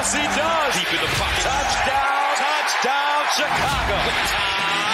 Yes, he does. Deep in the pocket. Touchdown, Chicago.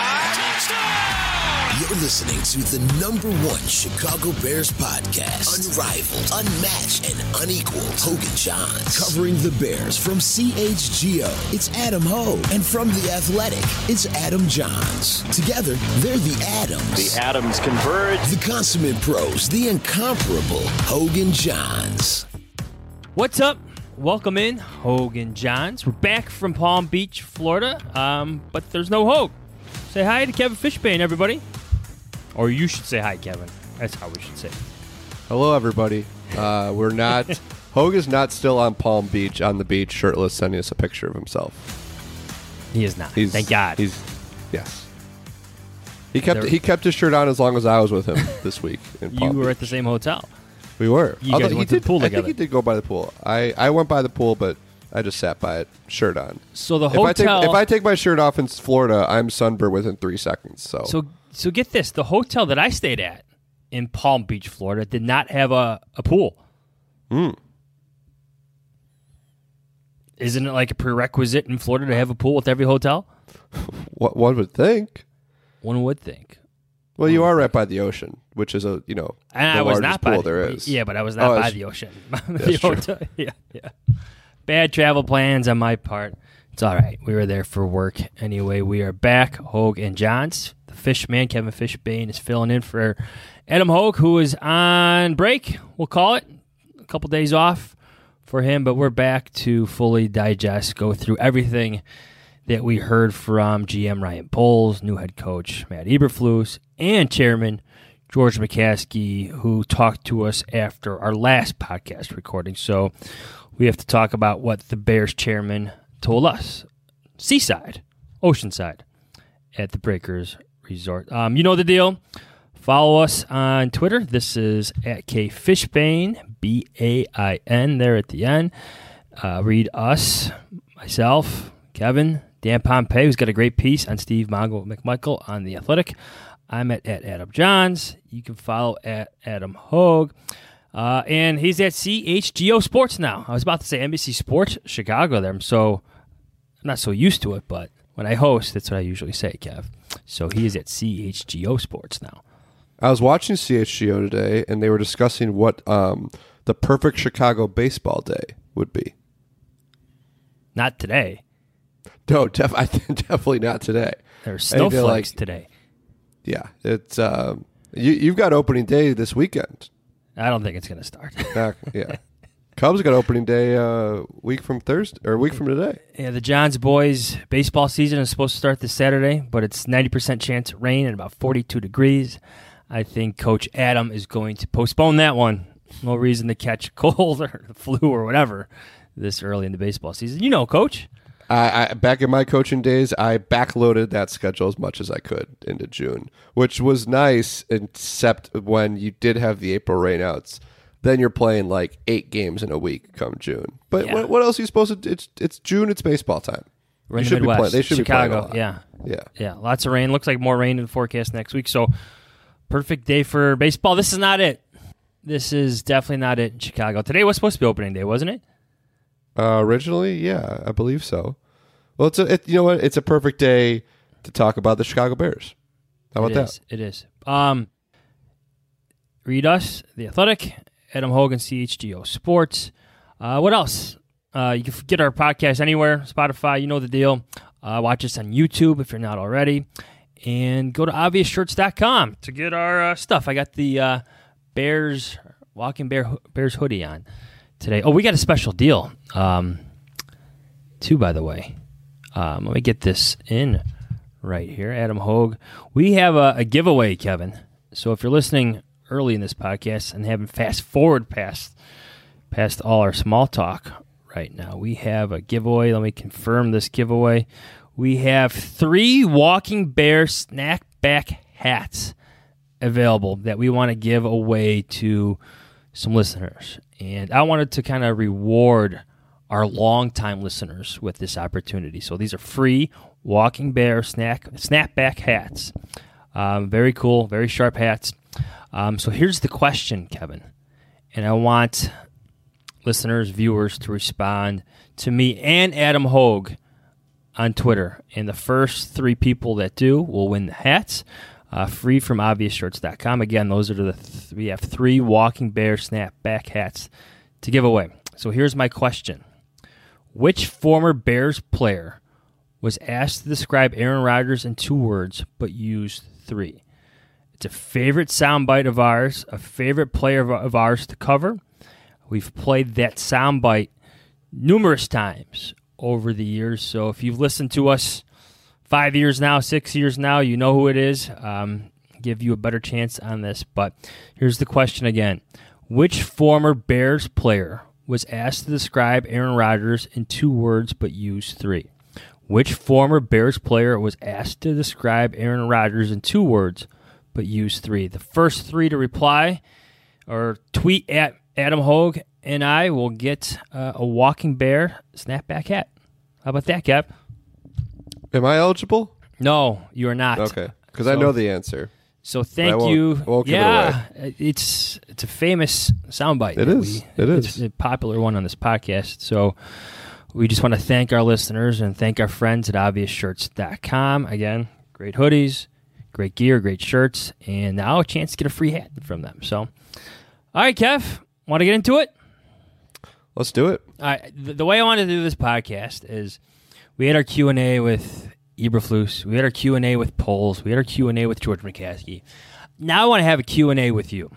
You're listening to the #1 Chicago Bears podcast. Unrivaled, unmatched, and unequaled. Hogan Johns. Covering the Bears from CHGO, it's Adam Hogue. And from The Athletic, it's Adam Johns. Together, they're the Adams. The Adams converge. The consummate pros, the incomparable Hogan Johns. What's up? Welcome in, Hogan Johns. We're back from Palm Beach, Florida, but there's no Hogue. Say hi to Kevin Fishbane, everybody. Or you should say hi, Kevin. That's how we should say it. Hello, everybody. We're not. Hogue is not still on Palm Beach, on the beach, shirtless, sending us a picture of himself. He is not. Thank God. Yes. He kept his shirt on as long as I was with him this week. In Palm You were Beach. at the same hotel. We were. You guys went to the pool together. I think he did go by the pool. I went by the pool, but I just sat by it, shirt on. So the hotel. If I take my shirt off in Florida, I'm sunburned within 3 seconds. So get this: the hotel that I stayed at in Palm Beach, Florida, did not have a pool. Isn't it like a prerequisite in Florida to have a pool with every hotel? What one would think. One would think. Well, you are right by the ocean, which is the I was largest not pool by there is. Yeah, but I was not by the ocean. The true. hotel, yeah. Bad travel plans on my part. It's all right. We were there for work anyway. We are back, Hogue and Johns. The Fishman, Kevin Fishbane, is filling in for Adam Hogue, who is on break. We'll call it a couple days off for him, but we're back to fully digest, go through everything that we heard from GM Ryan Poles, new head coach Matt Eberflus, and chairman George McCaskey, who talked to us after our last podcast recording. So we have to talk about what the Bears chairman told us. Seaside, Oceanside, at the Breakers Resort. You know the deal. Follow us on Twitter. This is at KFishbane, BAIN, there at the end. Read us, myself, Kevin, Dan Pompey, who's got a great piece on Steve Mongo McMichael on The Athletic. I'm at Adam Johns. You can follow at Adam Hogue. And he's at CHGO Sports now. I was about to say NBC Sports Chicago there. So I'm not so used to it, but when I host, that's what I usually say, Kev. So he is at CHGO Sports now. I was watching CHGO today, and they were discussing what the perfect Chicago baseball day would be. Not today. No, definitely not today. There's snowflakes today. Yeah, it's you've got opening day this weekend. I don't think it's going to start. Yeah, Cubs got opening day week from Thursday or week from today. Yeah, the Johns boys baseball season is supposed to start this Saturday, but it's 90% chance of rain and about 42 degrees. I think Coach Adam is going to postpone that one. No reason to catch a cold or the flu or whatever this early in the baseball season. You know, Coach. I back in my coaching days, I backloaded that schedule as much as I could into June, which was nice, except when you did have the April rainouts. Then you're playing like 8 games in a week come June. But Yeah. what else are you supposed to? It's June. It's baseball time. We're in the Midwest. They should Chicago, be playing a lot. Yeah. Lots of rain. Looks like more rain in the forecast next week. So perfect day for baseball. This is not it. This is definitely not it in Chicago. Today was supposed to be opening day, wasn't it? Originally, yeah, I believe so. Well, you know what? It's a perfect day to talk about the Chicago Bears. How about that? It is. Read us, The Athletic, Adam Hogan, CHGO Sports. What else? You can get our podcast anywhere, Spotify, you know the deal. Watch us on YouTube if you're not already. And go to obviousshirts.com to get our stuff. I got the Bears hoodie on today. Oh, we got a special deal, too, by the way. Let me get this in right here. Adam Hogue. We have a giveaway, Kevin. So if you're listening early in this podcast and haven't fast forward past all our small talk right now, we have a giveaway. Let me confirm this giveaway. We have 3 Walking Bear Snackback hats available that we want to give away to some listeners. And I wanted to kind of reward our longtime listeners with this opportunity. So these are free Walking Bear snapback hats. Very cool, very sharp hats. So here's the question, Kevin. And I want listeners, viewers to respond to me and Adam Hogue on Twitter. And the first 3 people that do will win the hats, free from obviousshirts.com. Again, those are we have 3 Walking Bear snapback hats to give away. So here's my question. Which former Bears player was asked to describe Aaron Rodgers in 2 words but used 3? It's a favorite soundbite of ours, a favorite player of ours to cover. We've played that soundbite numerous times over the years. So if you've listened to us 5 years now, 6 years now, you know who it is. Give you a better chance on this. But here's the question again. Which former Bears player was asked to describe Aaron Rodgers in 2 words but used 3? Which former Bears player was asked to describe Aaron Rodgers in 2 words but used 3? The first 3 to reply or tweet at Adam Hogue and I will get a Walking Bear snapback hat. How about that, Cap? Am I eligible? No, you are not. Okay, because I know the answer. So thank you. Won't give it away. It's a famous soundbite. It is. It's a popular one on this podcast. So we just want to thank our listeners and thank our friends at obviousshirts.com. Again, great hoodies, great gear, great shirts, and now a chance to get a free hat from them. So, all right, Kev, want to get into it? Let's do it. All right. The way I want to do this podcast is we had our Q&A with Eberflus. We had our Q&A with Poles. We had our Q&A with George McCaskey. Now I want to have a Q&A with you.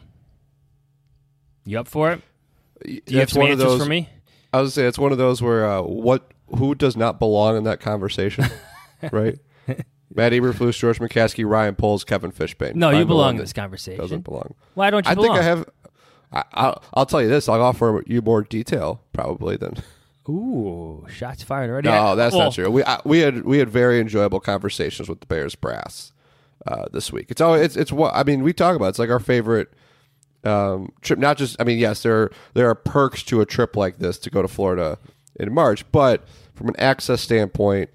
You up for it? Do you have some answers for me? I was going to say, it's one of those where who does not belong in that conversation, right? Matt Eberflus, George McCaskey, Ryan Poles, Kevin Fishbane. No, you belong in this conversation. Doesn't belong. Why don't you belong? I think I have... I'll tell you this. I'll offer you more detail probably than... Ooh, shots fired already. No, that's not true. We had very enjoyable conversations with the Bears brass this week. It's what I mean. We talk about it's like our favorite trip. Not just yes, there are perks to a trip like this to go to Florida in March, but from an access standpoint,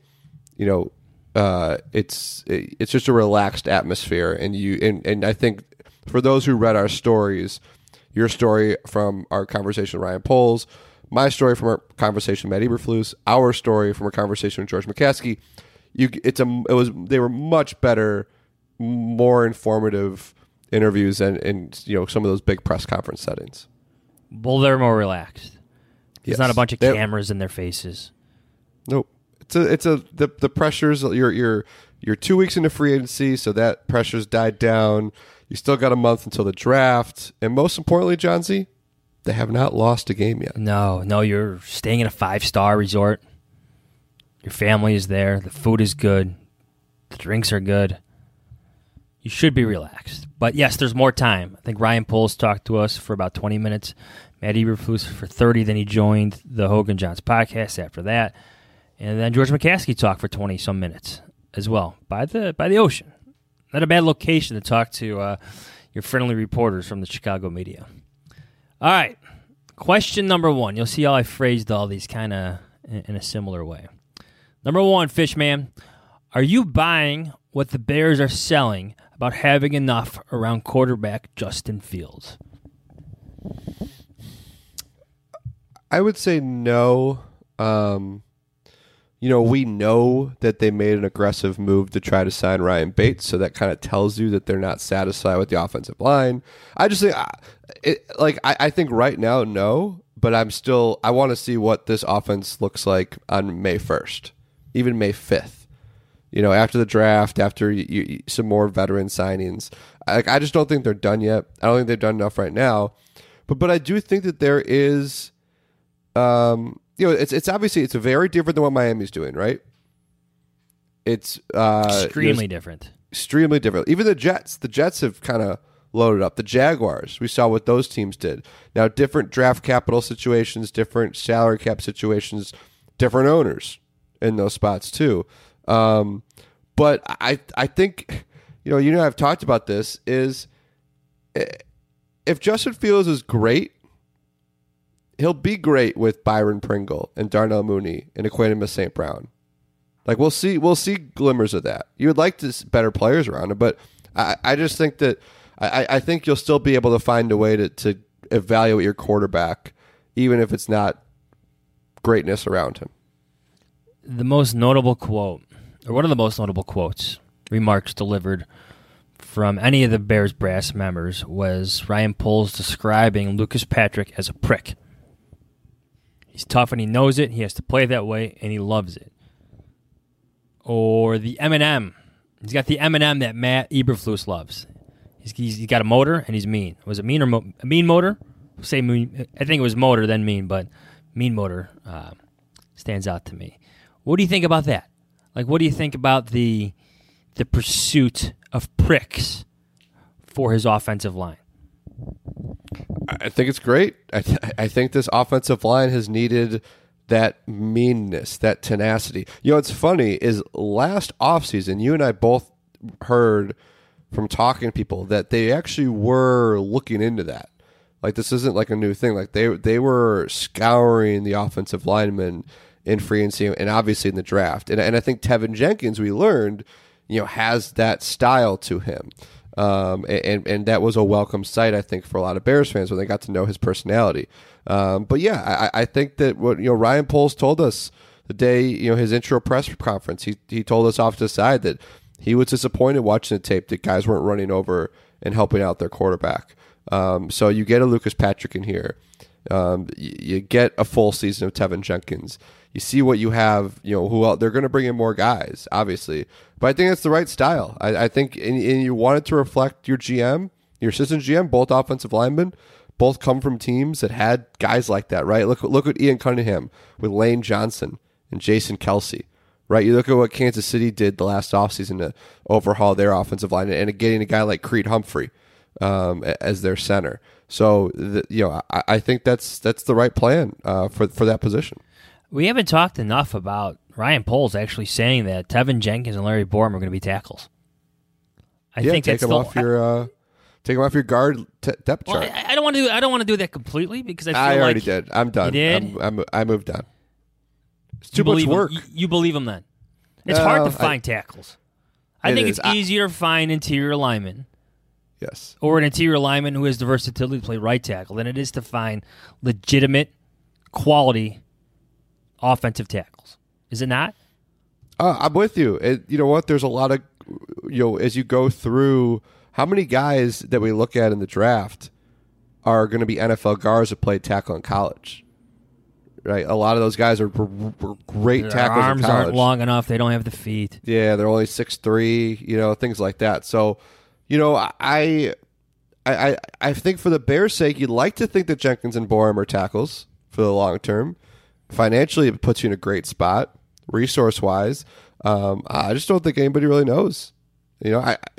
it's just a relaxed atmosphere, and I think for those who read our stories, your story from our conversation with Ryan Poles, my story from our conversation with Matt Eberflus, our story from our conversation with George McCaskey, they were much better, more informative interviews than some of those big press conference settings. Well, they're more relaxed. There's Yes. not a bunch of cameras in their faces. Nope. The pressures. You're 2 weeks into free agency, so that pressure's died down. You still got a month until the draft, and most importantly, John Z, they have not lost a game yet. No, you're staying in a 5-star resort. Your family is there. The food is good. The drinks are good. You should be relaxed. But yes, there's more time. I think Ryan Poles talked to us for about 20 minutes. Matt Eberflus for 30. Then he joined the Hogan Johns podcast after that. And then George McCaskey talked for 20-some minutes as well by the ocean. Not a bad location to talk to your friendly reporters from the Chicago media. All right, question number 1. You'll see how I phrased all these kind of in a similar way. Number 1, Fishman, are you buying what the Bears are selling about having enough around quarterback Justin Fields? I would say no. We know that they made an aggressive move to try to sign Ryan Bates, so that kind of tells you that they're not satisfied with the offensive line. I just think, I think right now, no, but I want to see what this offense looks like on May 1st, even May 5th. After the draft, after some more veteran signings. I just don't think they're done yet. I don't think they've done enough right now. But I do think that there is... it's obviously it's very different than what Miami's doing, right? It's extremely different. Extremely different. Even the Jets have kind of loaded up. The Jaguars, we saw what those teams did. Now, different draft capital situations, different salary cap situations, different owners in those spots too. But I think I've talked about this is if Justin Fields is great. He'll be great with Byron Pringle and Darnell Mooney and Equanimeous St. Brown. We'll see glimmers of that. You would like to see better players around him, but I just think that I think you'll still be able to find a way to evaluate your quarterback even if it's not greatness around him. The most notable quote, or one of the most notable quotes, remarks delivered from any of the Bears brass members was Ryan Poles describing Lucas Patrick as a prick. He's tough and he knows it. He has to play that way, and he loves it. Or the M&M. He's got the M&M that Matt Eberflus loves. He's got a motor, and he's mean. Was it mean or a mean motor? Say mean. I think it was motor, then mean, but mean motor stands out to me. What do you think about that? Like, what do you think about the pursuit of pricks for his offensive line? I think it's great. I think this offensive line has needed that meanness, that tenacity. You know, what's funny is last offseason, you and I both heard from talking to people that they actually were looking into that. Like, this isn't like a new thing. Like, they were scouring the offensive linemen in free agency and obviously in the draft. And I think Tevin Jenkins, we learned, has that style to him. And that was a welcome sight, I think, for a lot of Bears fans when they got to know his personality. But yeah, I think that what Ryan Poles told us the day his intro press conference, he told us off to the side that he was disappointed watching the tape that guys weren't running over and helping out their quarterback. So you get a Lucas Patrick in here, you get a full season of Tevin Jenkins. You see what you have, who else, they're going to bring in more guys, obviously. But I think that's the right style. I think, and you want it to reflect your GM, your assistant GM, both offensive linemen, both come from teams that had guys like that, right? Look at Ian Cunningham with Lane Johnson and Jason Kelsey, right? You look at what Kansas City did the last offseason to overhaul their offensive line and getting a guy like Creed Humphrey as their center. So, I think that's the right plan for that position. We haven't talked enough about Ryan Poles actually saying that Tevin Jenkins and Larry Borom are going to be tackles. I think take them off your guard depth chart. I don't want to do that completely because I already did. I'm done. You did? I moved on. It's too much work. You believe him then? It's hard to find tackles. I think it's easier to find interior linemen. Yes. Or an interior lineman who has the versatility to play right tackle than it is to find legitimate quality offensive tackles. Is it not? I'm with you. You know what? There's a lot of, as you go through, how many guys that we look at in the draft are going to be NFL guards that played tackle in college? Right? A lot of those guys were great Their tackles arms in college. aren't long enough. They don't have the feet. Yeah, they're only 6'3", things like that. So, I think for the Bears' sake, you'd like to think that Jenkins and Borom are tackles for the long term. Financially, it puts you in a great spot, resource-wise. I just don't think anybody really knows. We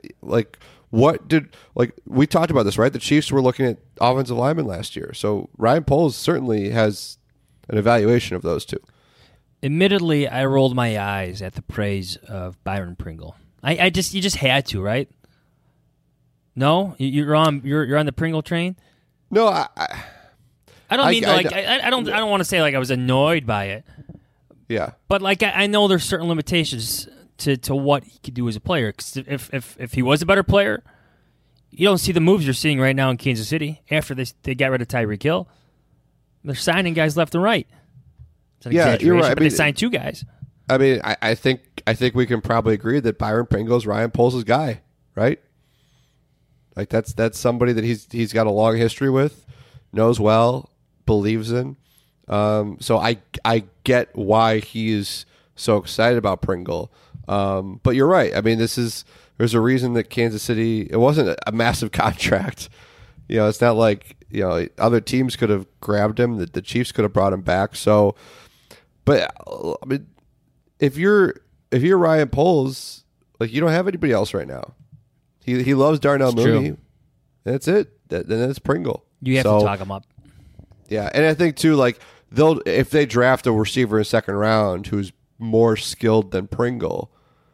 talked about this, right? The Chiefs were looking at offensive linemen last year. So Ryan Poles certainly has an evaluation of those two. Admittedly, I rolled my eyes at the praise of Byron Pringle. You just had to, right? No, you're on the Pringle train. No, I don't mean I don't want to say like I was annoyed by it. Yeah, but like I know there's certain limitations to what he could do as a player. 'Cause if he was a better player, you don't see the moves you're seeing right now in Kansas City after they got rid of Tyreek Hill. They're signing guys left and right. It's an exaggeration, you're right. But they signed two guys. I mean, I think we can probably agree that Byron Pringle is Ryan Poles' guy, right? Like that's somebody that he's got a long history with, knows well, believes in. So I get why he's so excited about Pringle. But you're right. I mean, there's a reason that Kansas City, it wasn't a massive contract. It's not like, other teams could have grabbed him, that the Chiefs could have brought him back. So, but I mean, if you're Ryan Poles, like, you don't have anybody else right now. He loves Darnell Mooney. That's it. Then it's Pringle. You have to talk him up. Yeah, and I think too, like, if they draft a receiver in the second round who's more skilled than Pringle,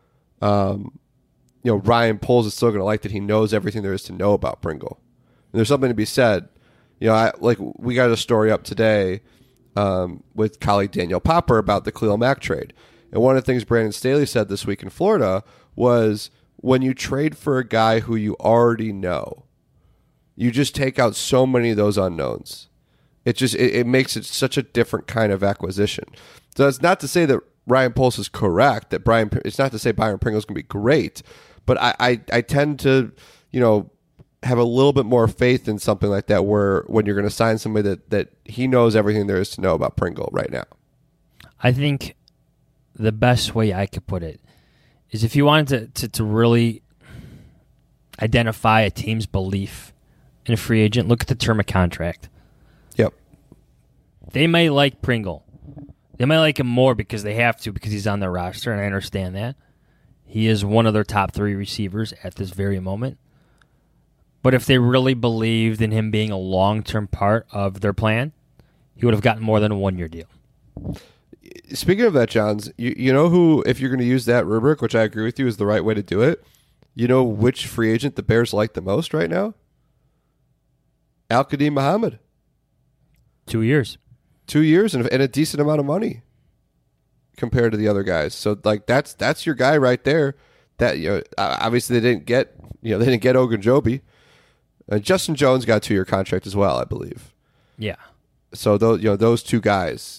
Ryan Poles is still going to like that he knows everything there is to know about Pringle. And there's something to be said. We got a story up today with colleague Daniel Popper about the Khalil Mack trade. And one of the things Brandon Staley said this week in Florida was, when you trade for a guy who you already know, you just take out so many of those unknowns. It makes it such a different kind of acquisition. So it's not to say that Ryan Poles is correct, it's not to say Byron Pringle's going to be great, but I tend to, have a little bit more faith in something like that where when you're going to sign somebody that he knows everything there is to know about Pringle right now. I think the best way I could put it is if you wanted to really identify a team's belief in a free agent, look at the term of contract. Yep. They may like Pringle. They might like him more because they have to, because he's on their roster, and I understand that. He is one of their top 3 receivers at this very moment. But if they really believed in him being a long-term part of their plan, he would have gotten more than a 1-year deal. Speaking of that, Johns, you know who, if you're going to use that rubric, which I agree with you is the right way to do it, you know which free agent the Bears like the most right now? Al-Qadim Muhammad. 2 years. 2 years and a decent amount of money compared to the other guys. So like that's your guy right there. That obviously they didn't get Ogunjobi. Justin Jones got a 2-year contract as well, I believe. Yeah. So those 2 guys.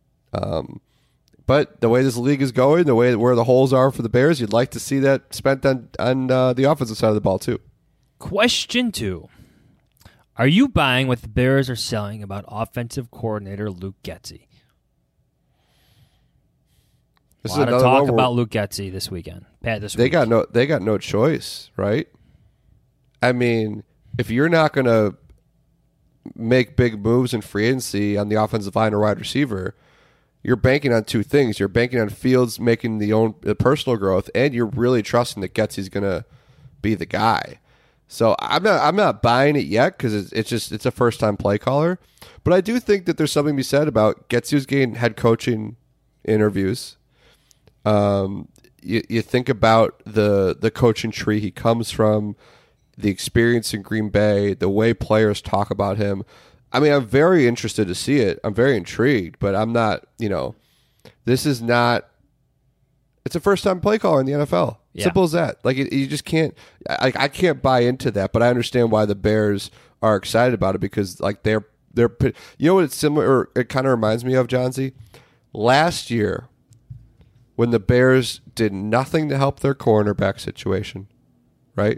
But the way this league is going, the way where the holes are for the Bears, you'd like to see that spent on the offensive side of the ball too. Question 2. Are you buying what the Bears are selling about offensive coordinator Luke Getsy? A lot of talk about Luke Getsy this weekend. They got no choice, right? I mean, if you're not going to make big moves in free agency on the offensive line or wide receiver, you're banking on 2 things. You're banking on Fields making the personal growth, and you're really trusting that Getsy's going to be the guy. So I'm not buying it yet because it's a first time play caller, but I do think that there's something to be said about Getsy's getting head coaching interviews. You think about the coaching tree he comes from, the experience in Green Bay, the way players talk about him. I mean, I'm very interested to see it. I'm very intrigued, but I'm not. This is not. It's a first time play caller in the NFL. Yeah. Simple as that. Like you just can't. I can't buy into that, but I understand why the Bears are excited about it because like they're. You know what it's similar? Or it kind of reminds me of, Johnsy, last year when the Bears did nothing to help their cornerback situation, right?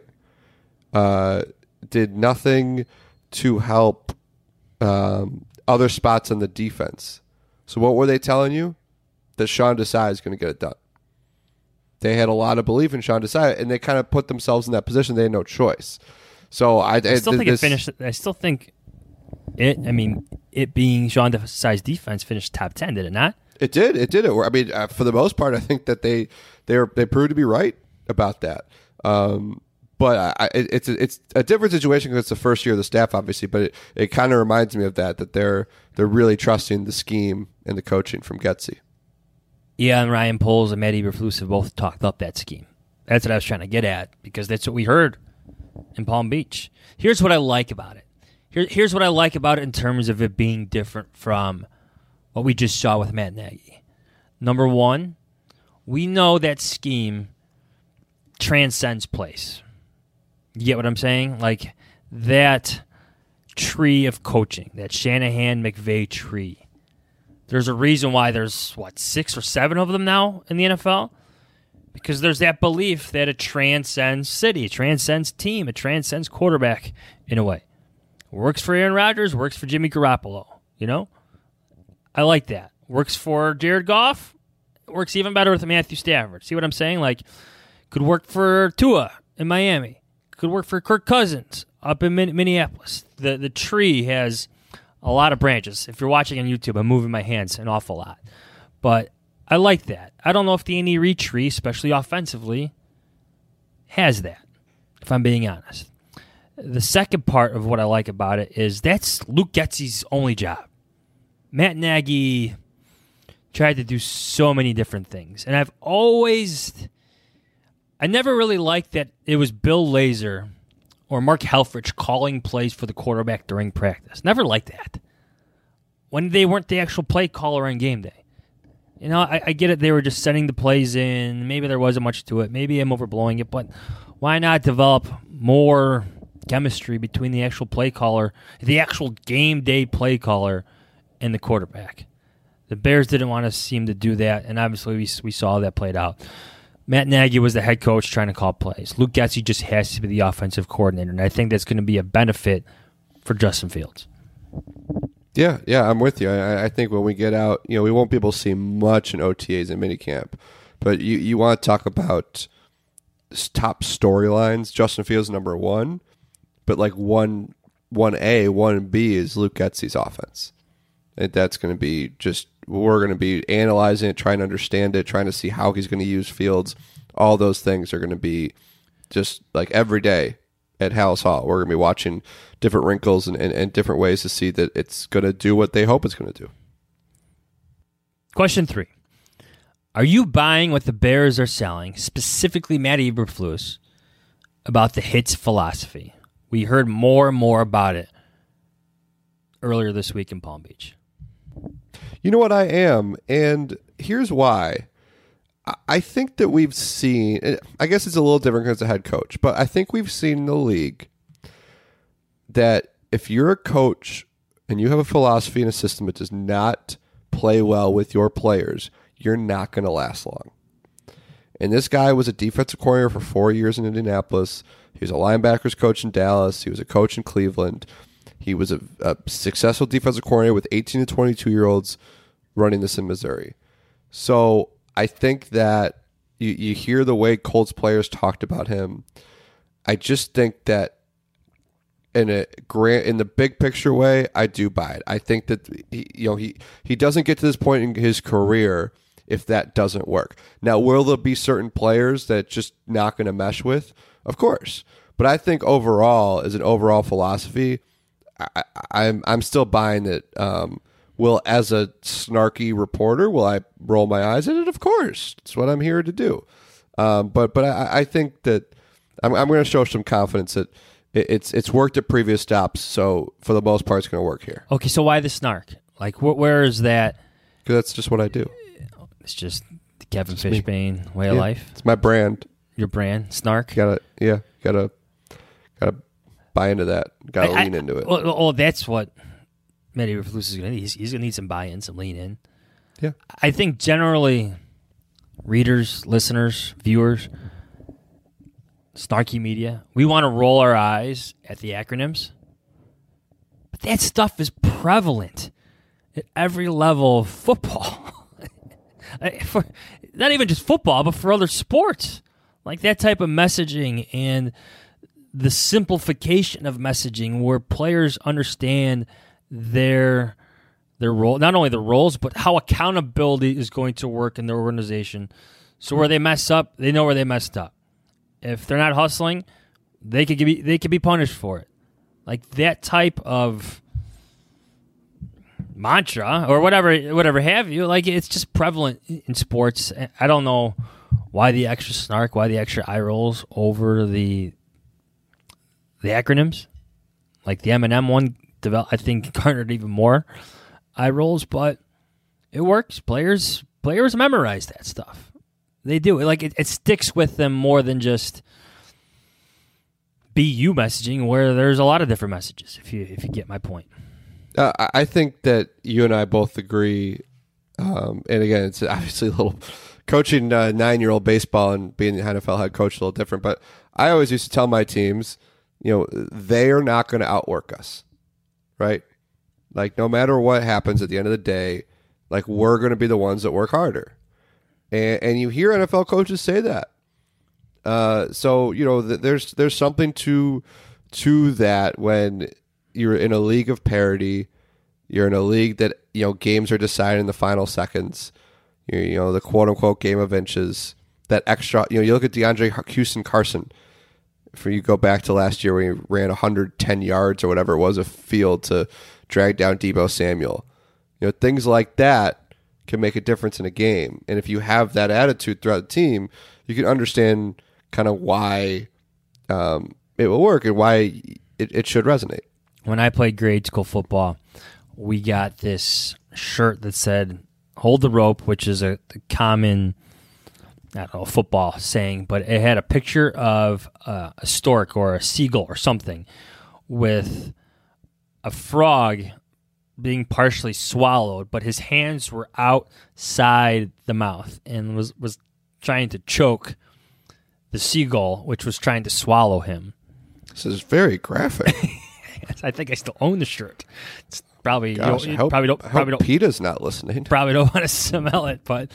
Did nothing to help other spots on the defense. So what were they telling you? That Sean Desai is going to get it done. They had a lot of belief in Sean Desai, and they kind of put themselves in that position. They had no choice. So I still think it finished. I still think it. I mean, it being Sean Desai's defense finished top 10, did it not? It did. It did. I mean, for the most part, I think that they proved to be right about that. But it's a different situation because it's the first year of the staff, obviously. But it kind of reminds me of that they're really trusting the scheme and the coaching from Getsy. Yeah, and Ryan Poles and Matt Eberflus have both talked up that scheme. That's what I was trying to get at because that's what we heard in Palm Beach. Here's what I like about it. Here's what I like about it in terms of it being different from what we just saw with Matt Nagy. Number one, we know that scheme transcends place. You get what I'm saying? Like that tree of coaching, that Shanahan-McVay tree. There's a reason why there's, 6 or 7 of them now in the NFL? Because there's that belief that it transcends city, it transcends team, it transcends quarterback in a way. Works for Aaron Rodgers, works for Jimmy Garoppolo, I like that. Works for Jared Goff, works even better with Matthew Stafford. See what I'm saying? Like, could work for Tua in Miami. Could work for Kirk Cousins up in Minneapolis. The tree has a lot of branches. If you're watching on YouTube, I'm moving my hands an awful lot. But I like that. I don't know if the Andy Reid tree, especially offensively, has that, if I'm being honest. The second part of what I like about it is that's Luke Getsy's only job. Matt Nagy tried to do so many different things. And I never really liked that it was Bill Lazor or Mark Helfrich calling plays for the quarterback during practice. Never liked that. When they weren't the actual play caller on game day. I get it. They were just sending the plays in. Maybe there wasn't much to it. Maybe I'm overblowing it. But why not develop more chemistry between the actual play caller, the actual game day play caller, and the quarterback. The Bears didn't want to seem to do that, and obviously we saw that played out. Matt Nagy was the head coach trying to call plays. Luke Getsy just has to be the offensive coordinator, and I think that's going to be a benefit for Justin Fields. Yeah, I'm with you. I think when we get out, we won't be able to see much in OTAs and minicamp, but you want to talk about top storylines. Justin Fields number one, but like 1A, 1B is Luke Getsy's offense. And that's going to be we're going to be analyzing it, trying to understand it, trying to see how he's going to use Fields. All those things are going to be just like every day at Halas Hall. We're going to be watching different wrinkles and different ways to see that it's going to do what they hope it's going to do. Question 3. Are you buying what the Bears are selling, specifically Matt Eberflus, about the hits philosophy? We heard more and more about it earlier this week in Palm Beach. You know what, I am, and here's why. I think that we've seen, I guess it's a little different because it's a head coach, but I think we've seen in the league that if you're a coach and you have a philosophy and a system that does not play well with your players, you're not going to last long. And this guy was a defensive coordinator for 4 years in Indianapolis. He was a linebackers coach in Dallas. He was a coach in Cleveland. He was a successful defensive coordinator with 18 to 22-year-olds running this in Missouri. So I think that you hear the way Colts players talked about him. I just think that in the big picture way, I do buy it. I think that he doesn't get to this point in his career if that doesn't work. Now, will there be certain players that just not going to mesh with? Of course. But I think overall, as an overall philosophy, I'm still buying that. As a snarky reporter, will I roll my eyes at it? Of course. It's what I'm here to do. But I think that I'm going to show some confidence that it's worked at previous stops, so for the most part, it's going to work here. Okay, so why the snark? Like, where is that? Because that's just what I do. It's just the Kevin Fishbane way of life. It's my brand. Your brand, snark. Gotta buy into that. Gotta lean into it. Well, that's what Matt Eberflus is going to need. He's going to need some buy-in, some lean in. Yeah, I think generally, readers, listeners, viewers, snarky media, we want to roll our eyes at the acronyms, but that stuff is prevalent at every level of football. For not even just football, but for other sports. Like that type of messaging and the simplification of messaging where players understand their role, not only the roles, but how accountability is going to work in their organization. So where they mess up, they know where they messed up. If they're not hustling, they could be punished for it. Like that type of mantra or whatever have you, like it's just prevalent in sports. I don't know why the extra snark, why the extra eye rolls over the acronyms. Like the M&M one, I think garnered even more eye rolls, but it works. Players memorize that stuff. They do. Like it sticks with them more than just BU messaging, where there's a lot of different messages. If you get my point. I think that you and I both agree, and again, it's obviously a little coaching 9-year-old baseball and being the NFL head coach is a little different, but I always used to tell my teams, they are not going to outwork us, right? Like, no matter what happens at the end of the day, like, we're going to be the ones that work harder. And you hear NFL coaches say that. So, there's something to that when you're in a league of parity. You're in a league that, games are decided in the final seconds. The quote-unquote game of inches. That extra, you look at DeAndre Houston Carson. For you go back to last year when he ran 110 yards or whatever it was a field to drag down Deebo Samuel. Things like that can make a difference in a game. And if you have that attitude throughout the team, you can understand kind of why it will work and why it should resonate. When I played grade school football, we got this shirt that said "Hold the rope," which is a common I don't know, a football saying, but it had a picture of a stork or a seagull or something with a frog being partially swallowed, but his hands were outside the mouth and was trying to choke the seagull, which was trying to swallow him. This is very graphic. I think I still own the shirt. It's probably Gosh, I hope PETA's not listening. Probably don't want to smell it, but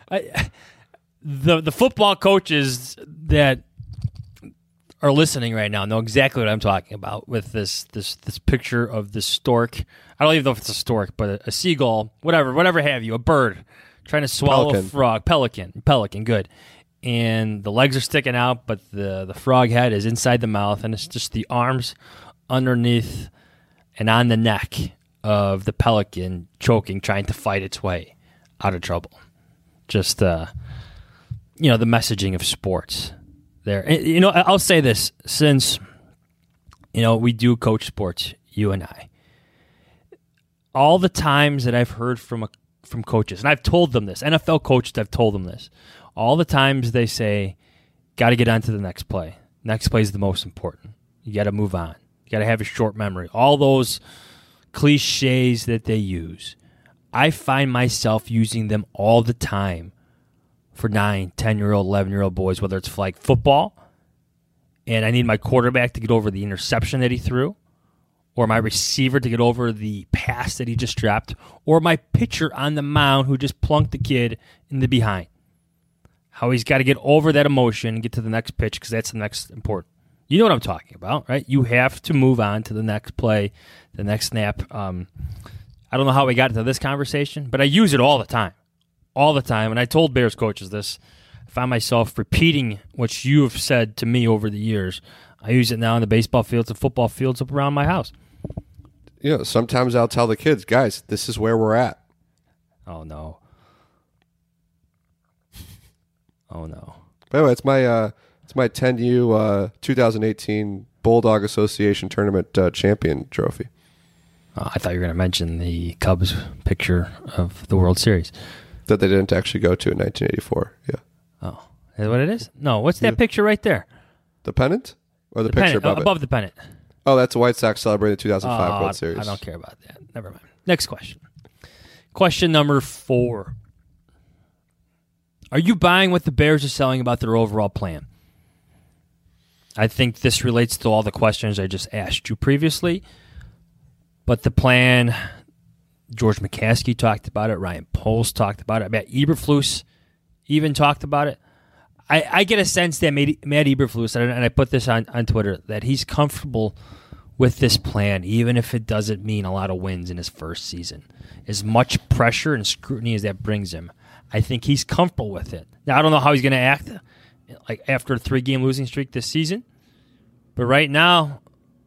the football coaches that are listening right now know exactly what I'm talking about with this picture of this stork. I don't even know if it's a stork, but a seagull, whatever have you, a bird trying to swallow a frog. Pelican, good. And the legs are sticking out, but the frog head is inside the mouth, and it's just the arms underneath and on the neck of the pelican choking, trying to fight its way out of trouble. Just, the messaging of sports there. And, I'll say this, since, we do coach sports, you and I. All the times that I've heard from coaches, and I've told them this, NFL coaches, I've told them this, all the times they say, got to get on to the next play. Next play is the most important. You got to move on. You got to have a short memory. All those cliches that they use. I find myself using them all the time for 9, 10-year-old, 11-year-old boys, whether it's flag football, and I need my quarterback to get over the interception that he threw, or my receiver to get over the pass that he just dropped, or my pitcher on the mound who just plunked the kid in the behind. How he's got to get over that emotion and get to the next pitch because that's the next important. You know what I'm talking about, right? You have to move on to the next play, the next snap. I don't know how we got into this conversation, but I use it all the time. All the time. And I told Bears coaches this. I find myself repeating what you have said to me over the years. I use it now in the baseball fields and football fields up around my house. Sometimes I'll tell the kids, guys, this is where we're at. Oh, no. Oh, no. By the way, it's my 10U 2018 Bulldog Association Tournament champion trophy. I thought you were going to mention the Cubs picture of the World Series. That they didn't actually go to in 1984. Yeah. Oh, is that what it is? No, what's that picture right there? The pennant? Or the picture pennant, above the pennant. Oh, that's the White Sox celebrating the 2005 World Series. I don't care about that. Never mind. Next question. Question number 4. Are you buying what the Bears are selling about their overall plan? I think this relates to all the questions I just asked you previously. But the plan, George McCaskey talked about it. Ryan Poles talked about it. Matt Eberflus even talked about it. I get a sense that Matt Eberflus, and I put this on Twitter, that he's comfortable with this plan, even if it doesn't mean a lot of wins in his first season. As much pressure and scrutiny as that brings him, I think he's comfortable with it. Now, I don't know how he's going to act like after a 3-game losing streak this season, but right now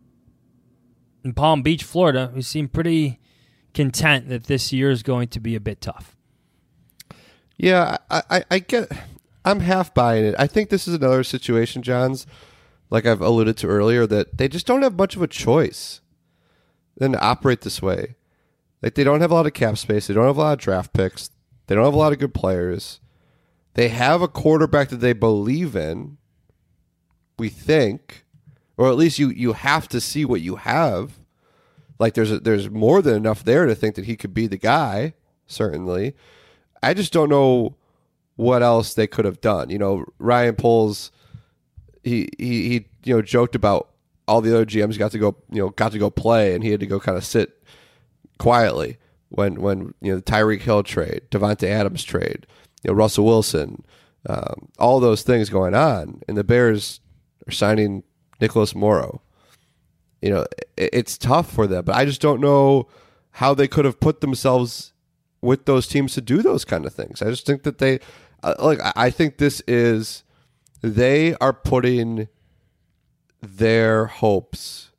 in Palm Beach, Florida, we seem pretty content that this year is going to be a bit tough. Yeah, I get. I'm half buying it. I think this is another situation, Johns, like I've alluded to earlier, that they just don't have much of a choice than to operate this way. Like, they don't have a lot of cap space. They don't have a lot of draft picks. They don't have a lot of good players. They have a quarterback that they believe in, we think, or at least you have to see what you have. Like, there's more than enough there to think that he could be the guy, certainly. I just don't know what else they could have done. Ryan Poles, he joked about all the other GMs got to go play, and he had to go kind of sit quietly when the Tyreek Hill trade, Devontae Adams trade, Russell Wilson, all those things going on, and the Bears are signing Nicholas Morrow. It's tough for them, but I just don't know how they could have put themselves with those teams to do those kind of things. I just think that they, I think this is, they are putting their hopes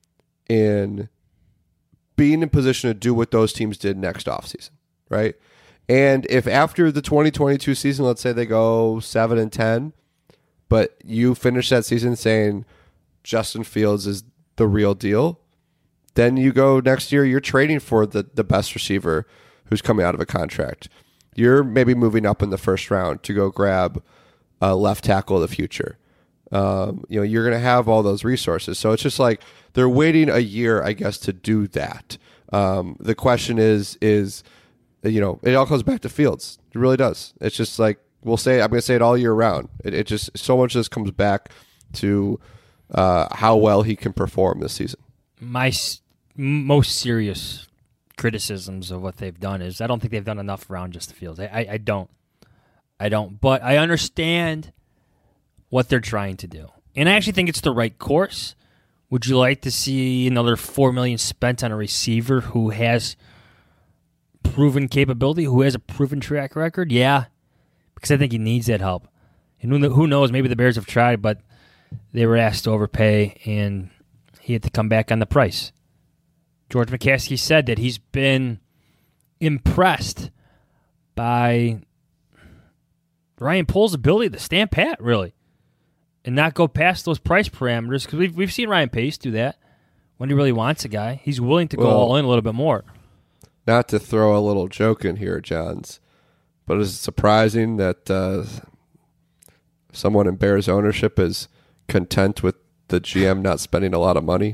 in being in position to do what those teams did next offseason, right? And if after the 2022 season, let's say they go 7-10, but you finish that season saying Justin Fields is the real deal, then you go next year, you're trading for the best receiver who's coming out of a contract. You're maybe moving up in the first round to go grab left tackle of the future. You're going to have all those resources. So it's just like they're waiting a year, I guess, to do that. The question is it all comes back to Fields. It really does. It's just like I'm going to say it all year round. It just so much of this comes back to how well he can perform this season. My most serious criticisms of what they've done is I don't think they've done enough around just the Fields. I don't. But I understand what they're trying to do. And I actually think it's the right course. Would you like to see another $4 million spent on a receiver who has proven capability, who has a proven track record? Yeah, because I think he needs that help. And who knows, maybe the Bears have tried, but they were asked to overpay, and he had to come back on the price. George McCaskey said that he's been impressed by Ryan Poles' ability to stand pat, really, and not go past those price parameters, because we've seen Ryan Pace do that when he really wants a guy. He's willing to go all in a little bit more. Not to throw a little joke in here, Johns, but is it surprising that someone in Bears ownership is content with the GM not spending a lot of money?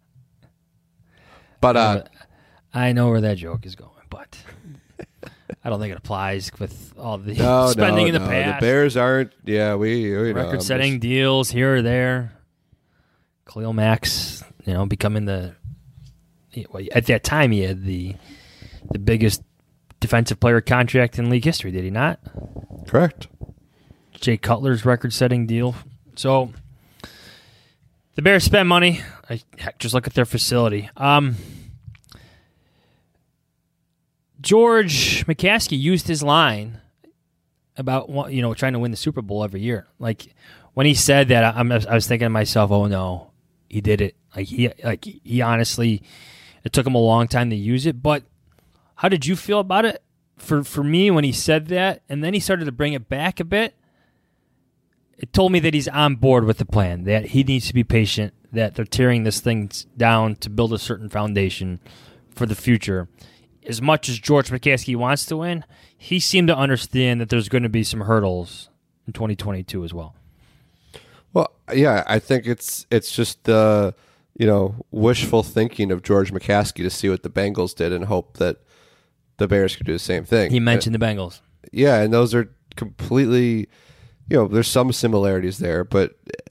But I know where that joke is going, but I don't think it applies with all the spending in the past. The Bears aren't. Yeah, we record-setting deals here or there. Khalil Mack's, becoming at that time he had the biggest defensive player contract in league history. Did he not? Correct. Jay Cutler's record-setting deal. So the Bears spend money. Just look at their facility. George McCaskey used his line about trying to win the Super Bowl every year. Like when he said that, I was thinking to myself, "Oh no, he did it." He honestly, it took him a long time to use it. But how did you feel about it? For me, when he said that, and then he started to bring it back a bit, it told me that he's on board with the plan. That he needs to be patient. That they're tearing this thing down to build a certain foundation for the future. As much as George McCaskey wants to win, he seemed to understand that there's going to be some hurdles in 2022 as well. Well, yeah, I think it's just the wishful thinking of George McCaskey to see what the Bengals did and hope that the Bears could do the same thing. He mentioned the Bengals. Yeah, and those are completely, there's some similarities there, but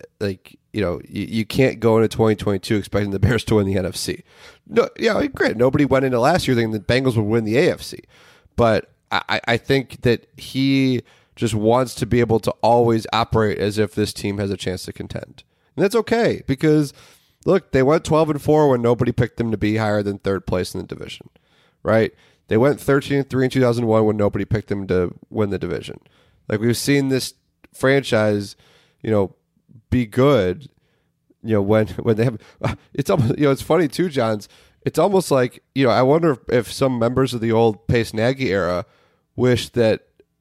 you can't go into 2022 expecting the Bears to win the NFC. No, great. Nobody went into last year thinking the Bengals would win the AFC, but I think that he just wants to be able to always operate as if this team has a chance to contend, and that's okay because look, they went 12-4 when nobody picked them to be higher than third place in the division, right? They went 13-3 in 2001 when nobody picked them to win the division. Like we've seen this franchise, be good, when they have. It's almost, it's funny too, Johns. It's almost like I wonder if some members of the old Pace Nagy era wish that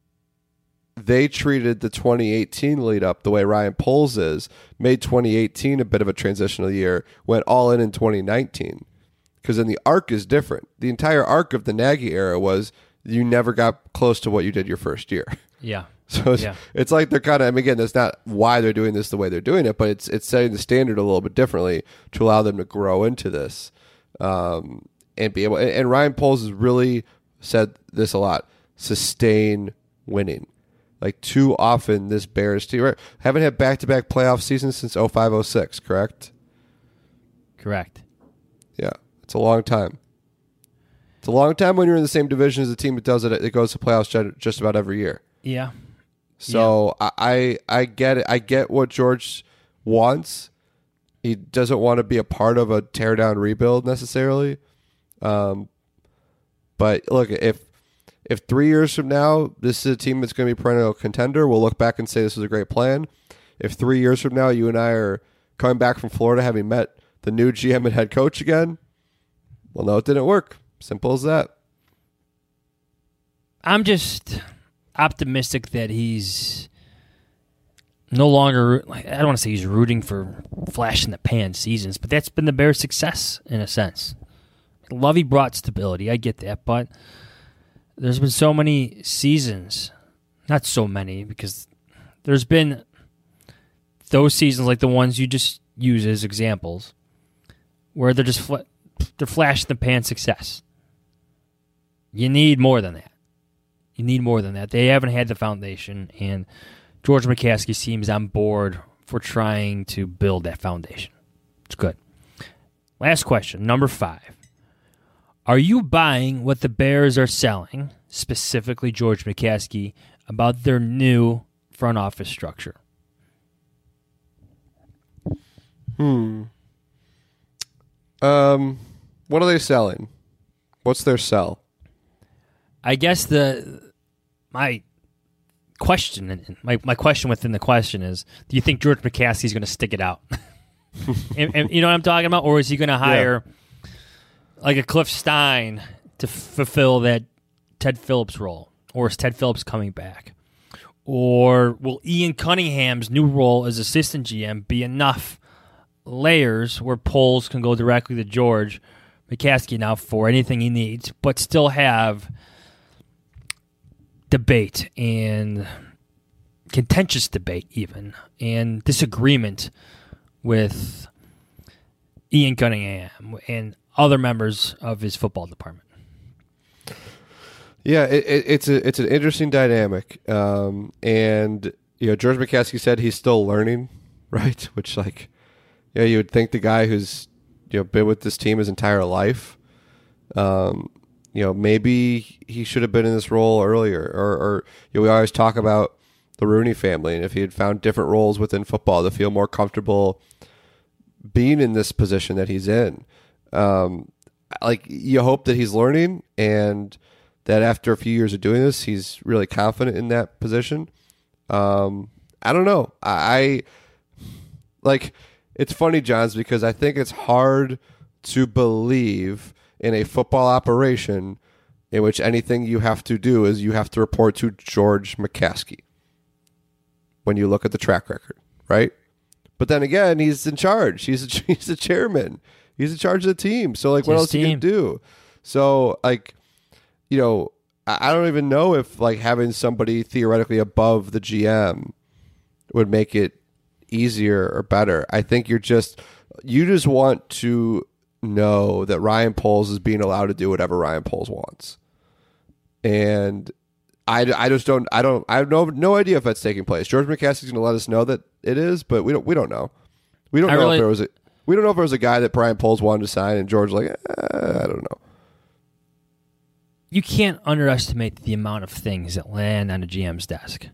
they treated the 2018 lead up the way Ryan Poles made 2018 a bit of a transitional year, went all in 2019, because then the arc is different. The entire arc of the Nagy era was you never got close to what you did your first year. Yeah. So it's like they're kind of, again, that's not why they're doing this the way they're doing it, but it's setting the standard a little bit differently to allow them to grow into this and be able. And Ryan Poles has really said this a lot: sustain winning. Like too often, this Bears team haven't had back-to-back playoff seasons since 05-06. Correct. Correct. Yeah, it's a long time. It's a long time when you're in the same division as a team that does it. It goes to playoffs just about every year. Yeah. So I get it. I get what George wants. He doesn't want to be a part of a teardown rebuild necessarily. But look, if 3 years from now this is a team that's going to be perennial contender, we'll look back and say this was a great plan. If 3 years from now you and I are coming back from Florida having met the new GM and head coach again, well, no, it didn't work. Simple as that. I'm just optimistic that he's no longer, I don't want to say he's rooting for flash in the pan seasons, but that's been the Bears' success in a sense. Lovey brought stability, I get that, but there's been so many seasons, not so many because There's been those seasons like the ones you just use as examples where they're just they're flash in the pan success. You need more than that. They haven't had the foundation, and George McCaskey seems on board for trying to build that foundation. It's good. Last question, number 5. Are you buying what the Bears are selling, specifically George McCaskey, about their new front office structure? What are they selling? What's their sell? I guess my question within the question is: do you think George McCaskey is going to stick it out? and you know what I'm talking about, or is he going to hire like a Cliff Stein to fulfill that Ted Phillips role, or is Ted Phillips coming back, or will Ian Cunningham's new role as assistant GM be enough layers where polls can go directly to George McCaskey now for anything he needs, but still have debate and contentious debate even and disagreement with Ian Cunningham and other members of his football department? Yeah, it's an interesting dynamic, and George McCaskey said he's still learning, right? Which you would think the guy who's been with this team his entire life, maybe he should have been in this role earlier, or we always talk about the Rooney family, and if he had found different roles within football to feel more comfortable being in this position that he's in. You hope that he's learning and that after a few years of doing this, he's really confident in that position. I don't know. It's funny, Johns, because I think it's hard to believe in a football operation in which anything you have to do is you have to report to George McCaskey when you look at the track record, right? But then again, he's in charge. He's the chairman. He's in charge of the team. So, what else can you do? So, I don't even know if, having somebody theoretically above the GM would make it easier or better. I think you just want to know that Ryan Poles is being allowed to do whatever Ryan Poles wants. And I have no idea if that's taking place. George McCaskey's going to let us know that it is, but we don't know. We don't know if there was a guy that Brian Poles wanted to sign and George I don't know. You can't underestimate the amount of things that land on a GM's desk.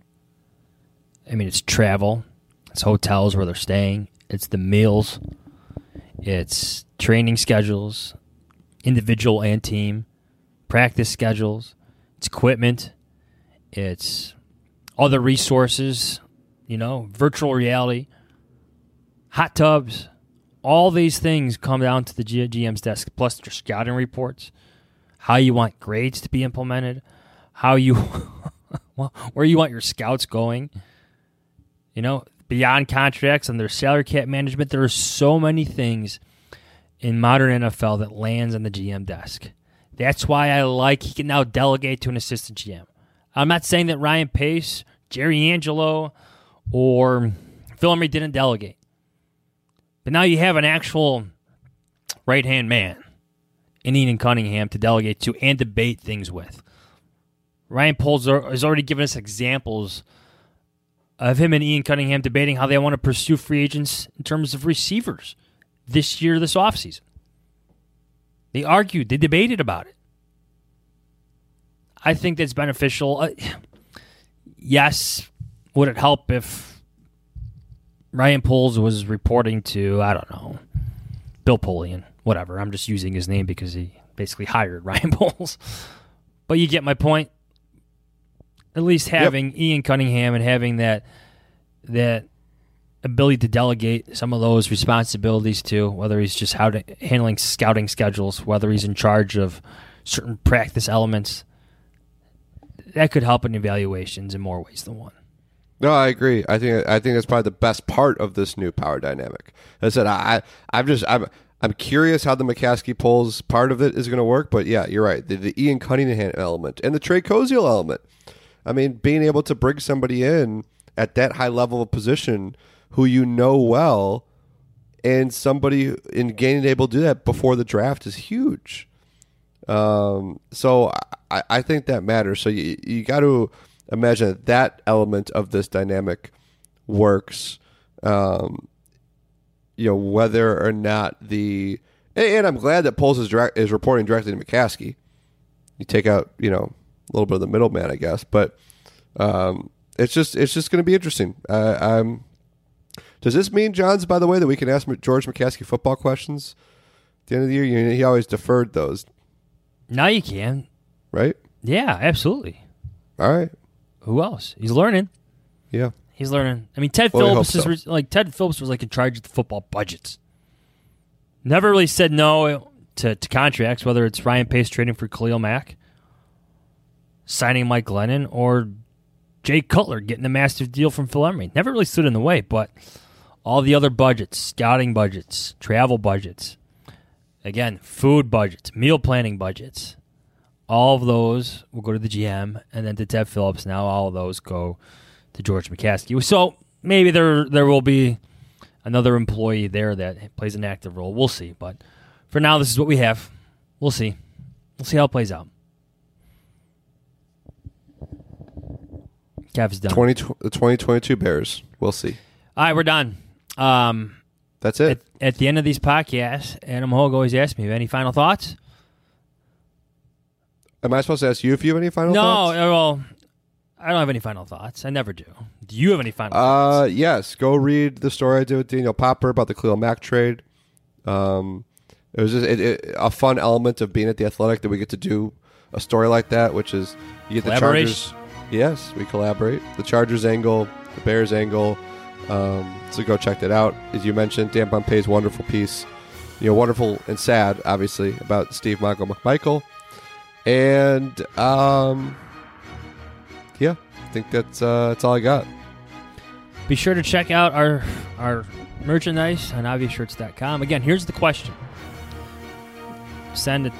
I mean, it's travel, it's hotels where they're staying, it's the meals, it's training schedules, individual and team, practice schedules, it's equipment, it's other resources, virtual reality, hot tubs. All these things come down to the GM's desk, plus their scouting reports, how you want grades to be implemented, where you want your scouts going. Beyond contracts and their salary cap management, there are so many things in modern NFL that lands on the GM desk. That's why he can now delegate to an assistant GM. I'm not saying that Ryan Pace, Jerry Angelo, or Phil Emery didn't delegate. But now you have an actual right-hand man in Ian Cunningham to delegate to and debate things with. Ryan Poles has already given us examples of him and Ian Cunningham debating how they want to pursue free agents in terms of receivers this offseason. They argued, they debated about it. I think that's beneficial. Yes, would it help if Ryan Poles was reporting to, I don't know, Bill Polian, whatever. I'm just using his name because he basically hired Ryan Poles. But you get my point. At least having Ian Cunningham and having that ability to delegate some of those responsibilities to, whether he's just handling scouting schedules, whether he's in charge of certain practice elements, that could help in evaluations in more ways than one. No, I agree. I think that's probably the best part of this new power dynamic. As I said, I'm curious how the McCaskey Poles part of it is going to work, but yeah, you're right. The Ian Cunningham element and the Trey Koziel element. I mean, being able to bring somebody in at that high level of position who you know well, and somebody in gaining able to do that before the draft is huge. So I think that matters. So you got to imagine that element of this dynamic works. Whether or not and I'm glad that Poles is reporting directly to McCaskey. You take out a little bit of the middleman, I guess, but it's just going to be interesting. Does this mean, Johns, by the way, that we can ask George McCaskey football questions at the end of the year? He always deferred those. Now you can. Right? Yeah, absolutely. All right. Who else? He's learning. Yeah. He's learning. I mean, Ted Phillips was like in charge of the football budgets. Never really said no to contracts, whether it's Ryan Pace trading for Khalil Mack, signing Mike Glennon, or Jay Cutler getting a massive deal from Phil Emery. Never really stood in the way, but all the other budgets, scouting budgets, travel budgets, again, food budgets, meal planning budgets, all of those will go to the GM and then to Ted Phillips. Now all of those go to George McCaskey. So maybe there will be another employee there that plays an active role. We'll see. But for now, this is what we have. We'll see. We'll see how it plays out. Cavs done. The 2022 Bears. We'll see. All right, we're done. That's it. At the end of these podcasts, Adam Hogue always asks me, any final thoughts? Am I supposed to ask you if you have any final thoughts? No, well, I don't have any final thoughts. I never do. Do you have any final thoughts? Yes. Go read the story I did with Daniel Popper about the Khalil Mack trade. It was just a fun element of being at The Athletic that we get to do a story like that, which is you get the Chargers. Yes, we collaborate. The Chargers angle, the Bears angle. So go check that out. As you mentioned, Dan Pompei's wonderful piece, wonderful and sad, obviously, about Steve McMichael. And yeah, I think that's all I got. Be sure to check out our merchandise on obviousshirts.com. Again, here's the question. Send a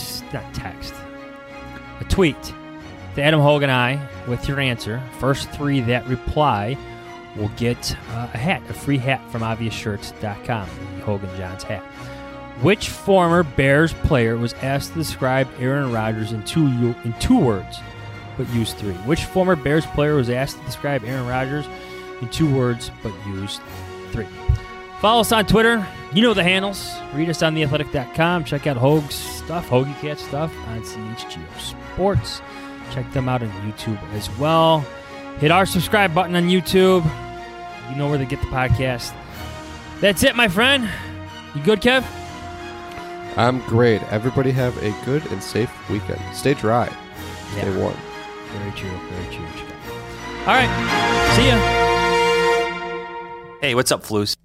tweet to Adam Hogue and I with your answer. First 3 that reply will get a free hat from obviousshirts.com, the Hogue and Johns hat. Which former Bears player was asked to describe Aaron Rodgers in two words, but used 3? Which former Bears player was asked to describe Aaron Rodgers in 2 words, but used 3? Follow us on Twitter. You know the handles. Read us on theathletic.com. Check out Hogue's stuff, Hoagie Cat stuff on CHGO Sports. Check them out on YouTube as well. Hit our subscribe button on YouTube. You know where to get the podcast. That's it, my friend. You good, Kev? I'm great. Everybody have a good and safe weekend. Stay dry. Stay warm. Very true. Very true. All right. See ya. Hey, what's up, Floos?